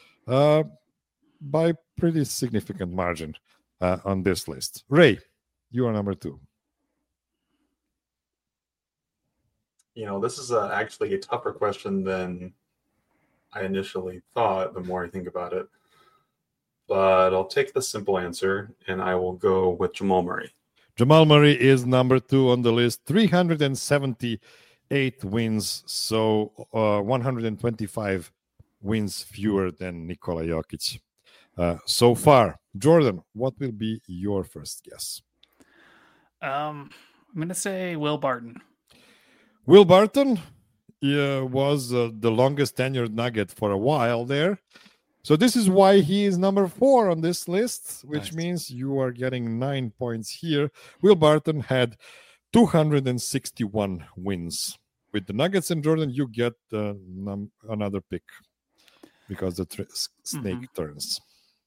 by pretty significant margin on this list. Ray, you are number 2. This is actually a tougher question than I initially thought, the more I think about it. But I'll take the simple answer, and I will go with Jamal Murray. Jamal Murray is number 2 on the list, 378 wins, so 125 wins fewer than Nikola Jokic so far. Jordan, what will be your first guess? I'm going to say Will Barton. Will Barton was the longest tenured Nugget for a while there. So this is why he is number 4 on this list, which means you are getting 9 points here. Will Barton had 261 wins. With the Nuggets and Jordan, you get another pick because the snake turns.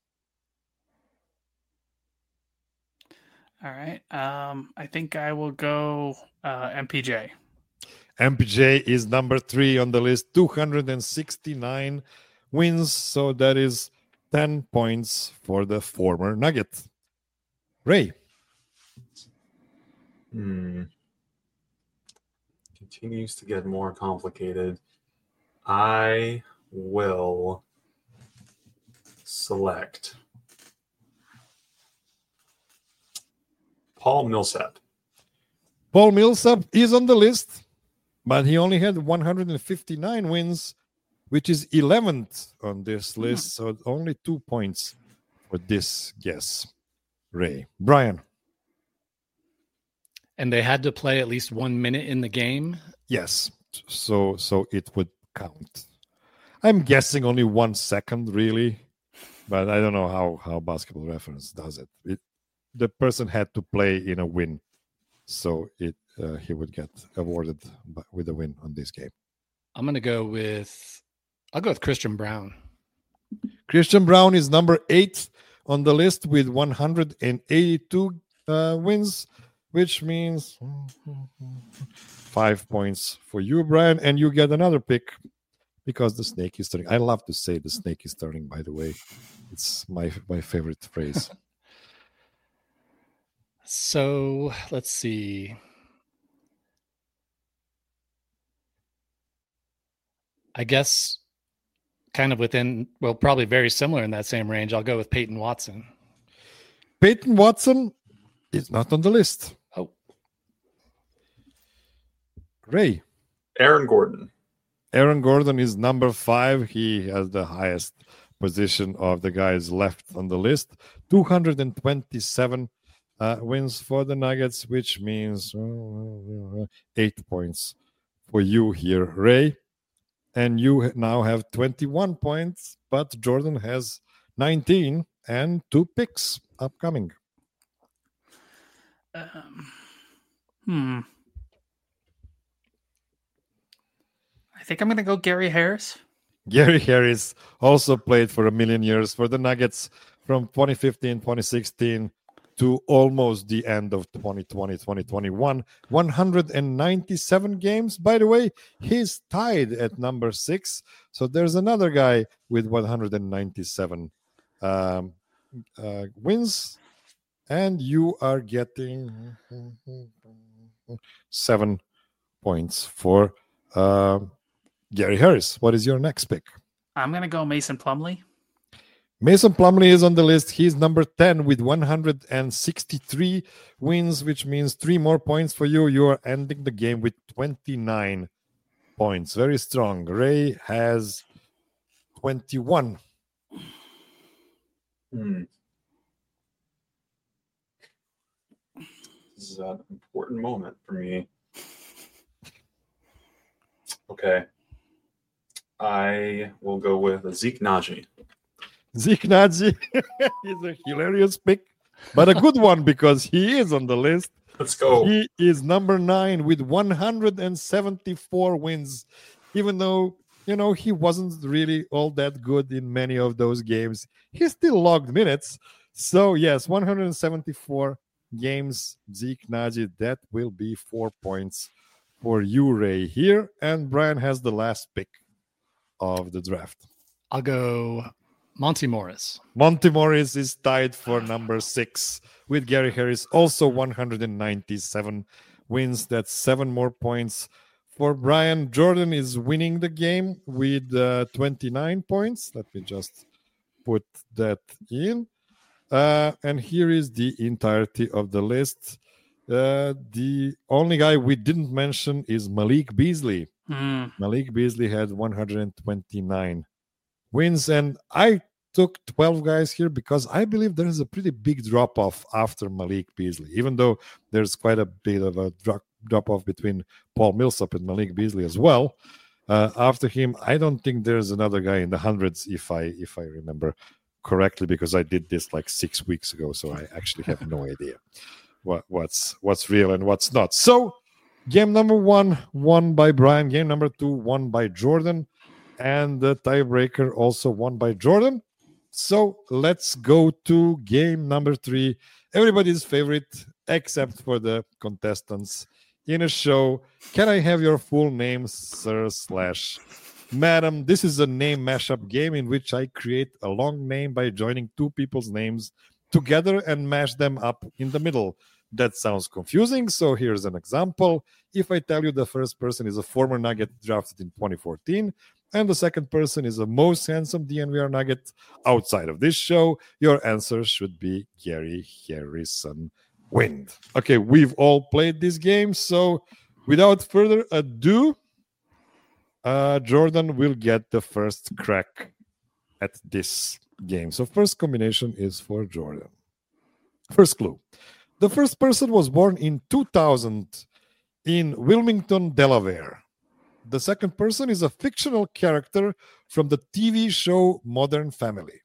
All right. I think I will go MPJ. MPJ is number 3 on the list, 269 wins. So that is 10 points for the former Nugget. Ray. Continues to get more complicated. I will select Paul Millsap. Paul Millsap is on the list, but he only had 159 wins, which is 11th on this list. So only 2 points for this guess. Ray. Brian. And they had to play at least 1 minute in the game? Yes. So it would count. I'm guessing only 1 second, really. But I don't know how Basketball Reference does it. The person had to play in a win. So he would get awarded with a win on this game. I'll go with Christian Braun. Christian Braun is number 8 on the list with 182 wins, which means 5 points for you, Brian, and you get another pick because the snake is turning. I love to say the snake is turning, by the way. It's my favorite phrase. So let's see. I guess kind of probably very similar in that same range. I'll go with Peyton Watson. Peyton Watson is not on the list. Oh. Ray. Aaron Gordon. Aaron Gordon is number 5. He has the highest position of the guys left on the list. 227 wins for the Nuggets, which means 8 points for you here, Ray. and you now have 21 points, but Jordan has 19 and 2 picks upcoming. I think I'm going to go Gary Harris. Gary Harris also played for a million years for the Nuggets from 2015, 2016 to almost the end of 2020, 2021. 197 games. By the way, he's tied at number 6. So there's another guy with 197 wins. And you are getting 7 points for Gary Harris. What is your next pick? I'm going to go Mason Plumlee. Mason Plumlee is on the list. He's number 10 with 163 wins, which means 3 more points for you. You are ending the game with 29 points. Very strong. Ray has 21. This is an important moment for me. Okay. I will go with Zeke Naji. Zeke Naji is a hilarious pick, but a good one because he is on the list. Let's go. He is number 9 with 174 wins, even though, he wasn't really all that good in many of those games. He still logged minutes. So, yes, 174 games, Zeke Naji. That will be 4 points for you, Ray, here. And Brian has the last pick of the draft. I'll go Monty Morris. Monty Morris is tied for number 6 with Gary Harris, also 197 wins. That's 7 more points for Brian. Jordan is winning the game with 29 points. Let me just put that in. And here is the entirety of the list. The only guy we didn't mention is Malik Beasley. Malik Beasley had 129 wins, and I took 12 guys here because I believe there is a pretty big drop-off after Malik Beasley, even though there's quite a bit of a drop-off between Paul Millsap and Malik Beasley as well. After him, I don't think there's another guy in the hundreds, if I remember correctly, because I did this like 6 weeks ago, so I actually have no idea what's real and what's not. So game number 1 won by Brian. Game number 2 won by Jordan. And the tiebreaker also won by Jordan. So let's go to game number 3. Everybody's favorite, except for the contestants in a show. Can I have your full name, sir/madam? This is a name mashup game in which I create a long name by joining 2 people's names together and mash them up in the middle. That sounds confusing, so here's an example. If I tell you the first person is a former Nugget drafted in 2014, and the second person is a most handsome DNVR Nugget outside of this show, your answer should be Gary Harrison Wind. Okay, we've all played this game, so without further ado, Jordan will get the first crack at this game. So first combination is for Jordan. First clue. The first person was born in 2000 in Wilmington, Delaware. The second person is a fictional character from the TV show Modern Family.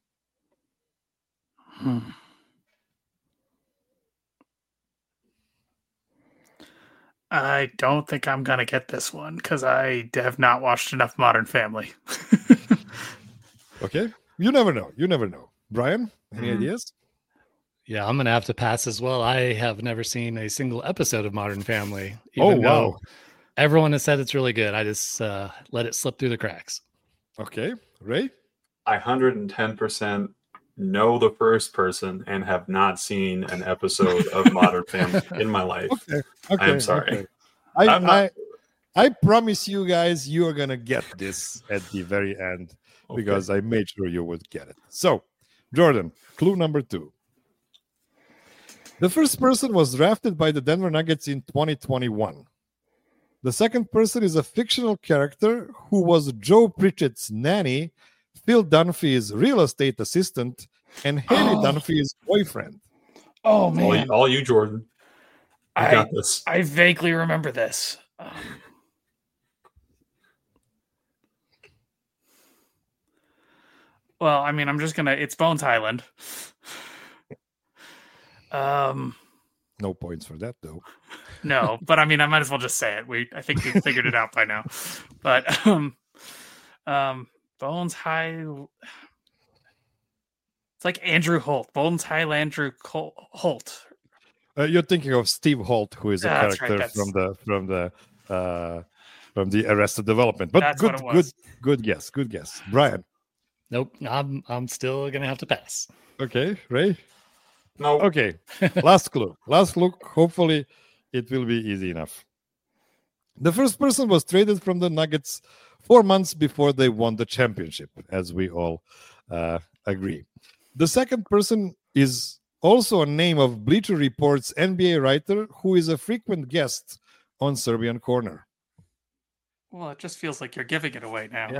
I don't think I'm going to get this one because I have not watched enough Modern Family. Okay. You never know. Brian, any ideas? Yeah, I'm going to have to pass as well. I have never seen a single episode of Modern Family. Oh, wow. Everyone has said it's really good. I just let it slip through the cracks. Okay. Ray? I 110% know the first person and have not seen an episode of Modern Family in my life. Okay. I'm sorry. Okay. I promise you guys you are going to get this at the very end because I made sure you would get it. So, Jordan, clue number 2. The first person was drafted by the Denver Nuggets in 2021. The second person is a fictional character who was Joe Pritchett's nanny, Phil Dunphy's real estate assistant, and Haley Dunphy's boyfriend. Oh, man. All you, Jordan. I got this. I vaguely remember this. Well, I mean, I'm just gonna. It's Bones Highland. No points for that, though. No, but I mean, I might as well just say it. I think we figured it out by now. But Bones High. It's like Andrew Holt. Bones High Andrew Holt. You're thinking of Steve Holt, who is a character right, from the Arrested Development. But that's good guess. Good guess. Brian. Nope. I'm still gonna have to pass. Okay, Ray. No. Okay. Last clue. Last clue. Hopefully, it will be easy enough. The first person was traded from the Nuggets 4 months before they won the championship, as we all agree. The second person is also a name of Bleacher Report's NBA writer who is a frequent guest on Serbian Corner. Well, it just feels like you're giving it away now.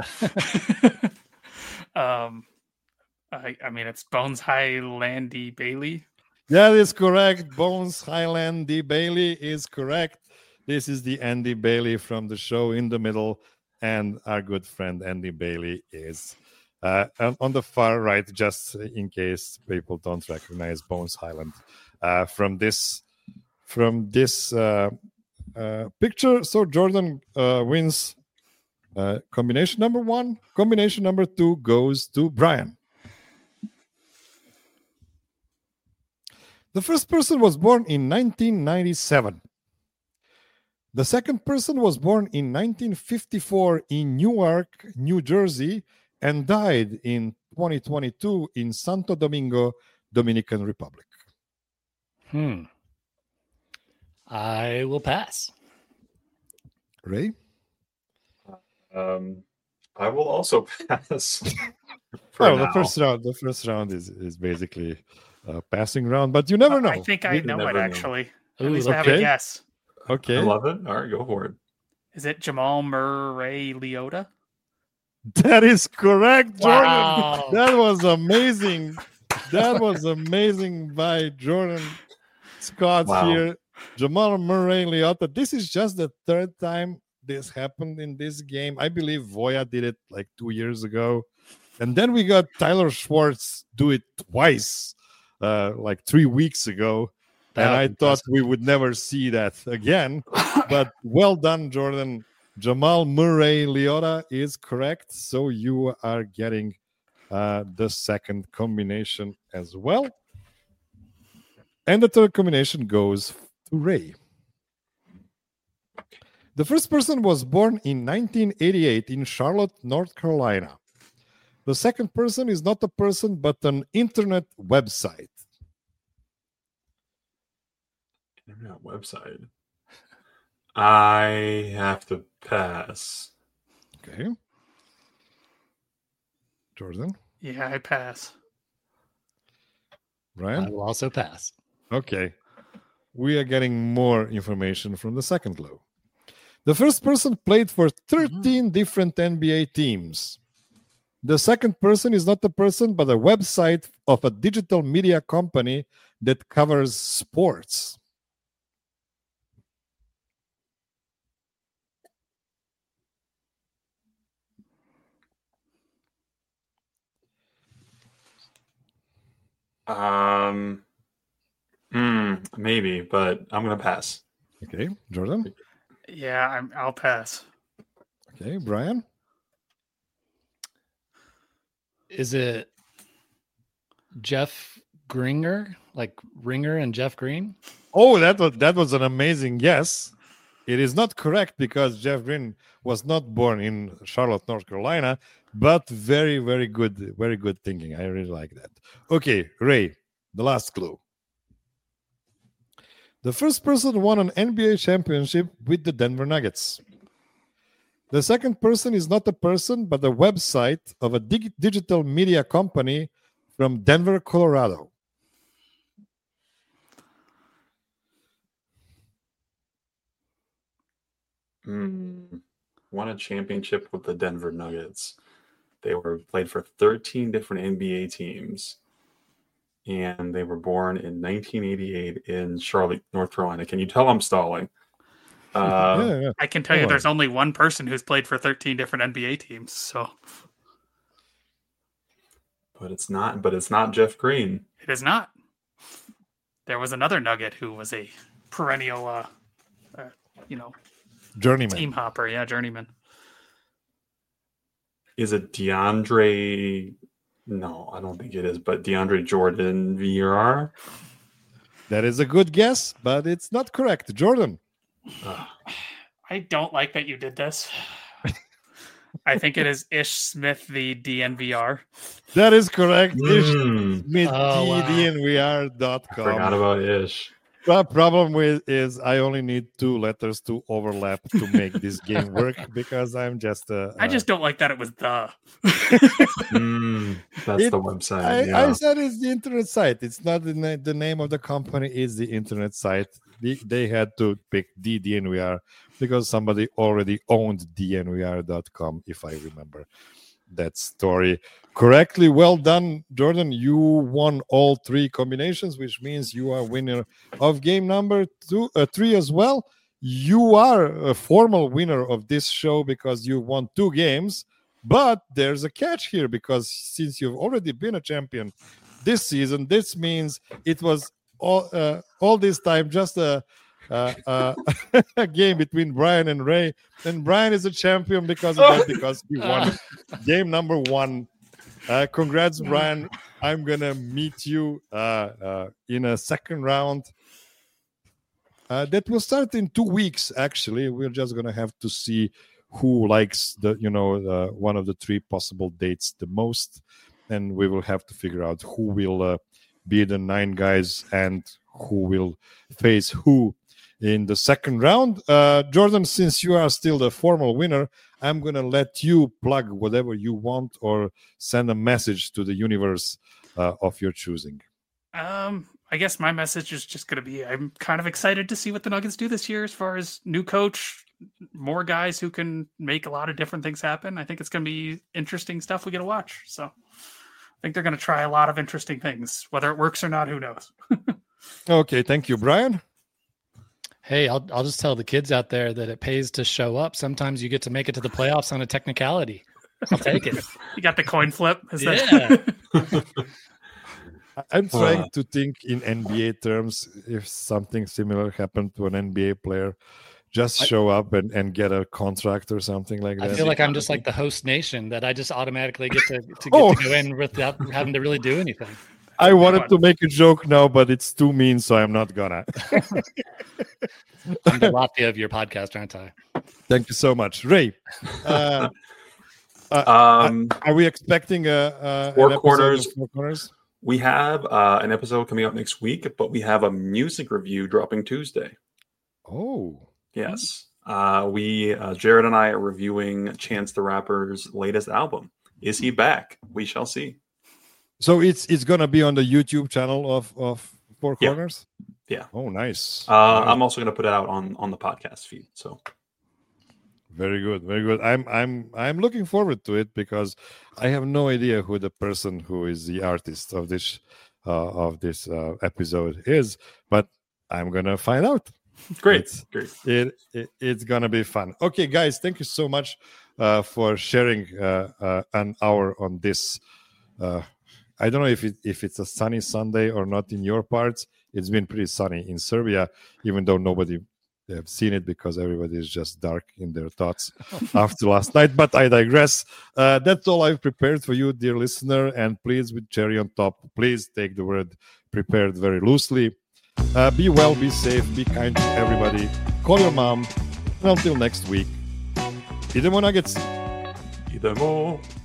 Yeah. I mean, it's Bones Highlandy Bailey. That is correct. Bones Highlandy Bailey is correct. This is the Andy Bailey from the show In the Middle, and our good friend Andy Bailey is on the far right, just in case people don't recognize Bones Highland from this picture. So Jordan wins combination number 1. Combination number 2 goes to Brian. The first person was born in 1997. The second person was born in 1954 in Newark, New Jersey, and died in 2022 in Santo Domingo, Dominican Republic. I will pass. Ray? I will also pass. The first round is basically a passing round, but you never know. I think I know it, actually. At least Ooh, I have a guess. Okay. I love it. All right, go for it. Is it Jamal Murray Leota? That is correct, Jordan. Wow. That was amazing. That was amazing by Jordan Scott here. Jamal Murray Leota. This is just the third time this happened in this game. I believe Voya did it like 2 years ago. And then we got Tyler Schwartz do it twice, like 3 weeks ago. And I thought we would never see that again. But well done, Jordan. Jamal Murray Leota is correct. So you are getting the second combination as well. And the third combination goes to Ray. The first person was born in 1988 in Charlotte, North Carolina. The second person is not a person, but an internet website. Internet website. I have to pass. Okay. Jordan? Yeah, I pass. Brian? I will also pass. Okay. We are getting more information from the second clue. The first person played for 13 different NBA teams. The second person is not a person, but a website of a digital media company that covers sports. Maybe, but I'm gonna pass. Okay, Jordan? Yeah, I'll pass. Okay, Brian? Is it Jeff Gringer, like Ringer and Jeff Green? Oh, that was an amazing guess. It is not correct because Jeff Green was not born in Charlotte, North Carolina, but very, very good thinking. I really like that. Okay, Ray, the last clue. The first person won an NBA championship with the Denver Nuggets. The second person is not a person, but a website of a digital media company from Denver, Colorado. Won a championship with the Denver Nuggets. They were played for 13 different NBA teams. And they were born in 1988 in Charlotte, North Carolina. Can you tell I'm stalling? Yeah. I can tell you there's only one person who's played for 13 different NBA teams. So But it's not. But it's not Jeff Green. It is not. There was another Nugget who was a perennial, Journeyman. team hopper. Yeah, journeyman. Is it DeAndre? No, I don't think it is. But DeAndre Jordan VRR. That is a good guess, but it's not correct. Jordan. I don't like that you did this. I think it is Ish Smith, the DNVR. That is correct. Ish Smith, Oh, wow. DNVR.com. Forgot about Ish. The problem with is I only need 2 letters to overlap to make this game work because I'm just I just don't like that it was the. That's the website. I said it's the internet site. It's not the name of the company. It's the internet site. They had to pick the DNVR because somebody already owned DNVR.com, if I remember that story correctly. Well done, Jordan. You won all 3 combinations, which means you are winner of game number 3 as well. You are a formal winner of this show because you won 2 games, but there's a catch here because since you've already been a champion this season, this means it was all this time just a game between Brian and Ray, and Brian is a champion because of that, because he won game number 1. Congrats, Brian. I'm gonna meet you in a second round that will start in 2 weeks. Actually, we're just gonna have to see who likes the one of the 3 possible dates the most, and we will have to figure out who will be the 9 guys and who will face who in the second round. Jordan, since you are still the formal winner, I'm going to let you plug whatever you want or send a message to the universe of your choosing. I guess my message is just going to be I'm kind of excited to see what the Nuggets do this year as far as new coach, more guys who can make a lot of different things happen. I think it's going to be interesting stuff we get to watch. So I think they're going to try a lot of interesting things. Whether it works or not, who knows? Okay, thank you, Brian. Hey, I'll just tell the kids out there that it pays to show up. Sometimes you get to make it to the playoffs on a technicality. I'll take it. You got the coin flip? Yeah. I'm trying to think in NBA terms if something similar happened to an NBA player. Just show up and get a contract or something like that. I feel like I'm just like the host nation, that I just automatically get to go in without having to really do anything. I wanted to make a joke now, but it's too mean, so I'm not gonna. I'm the Latvia of your podcast, aren't I? Thank you so much, Ray. Are we expecting Four an Corners? Four Corners? We have an episode coming up next week, but we have a music review dropping Tuesday. Oh, yes. Jared and I are reviewing Chance the Rapper's latest album. Is he back? We shall see. So it's gonna be on the YouTube channel of Four Corners. Yeah. Oh, nice. I'm also gonna put it out on the podcast feed. So very good, very good. I'm looking forward to it because I have no idea who the person who is the artist of this episode is, but I'm gonna find out. Great. It's gonna be fun. Okay, guys, thank you so much for sharing an hour on this. I don't know if it's a sunny Sunday or not in your parts. It's been pretty sunny in Serbia, even though nobody have seen it because everybody is just dark in their thoughts after last night. But I digress. That's all I've prepared for you, dear listener. And please, with cherry on top, please take the word prepared very loosely. Be well, be safe, be kind to everybody. Call your mom. And until next week, Idemo Nuggets. Idemo.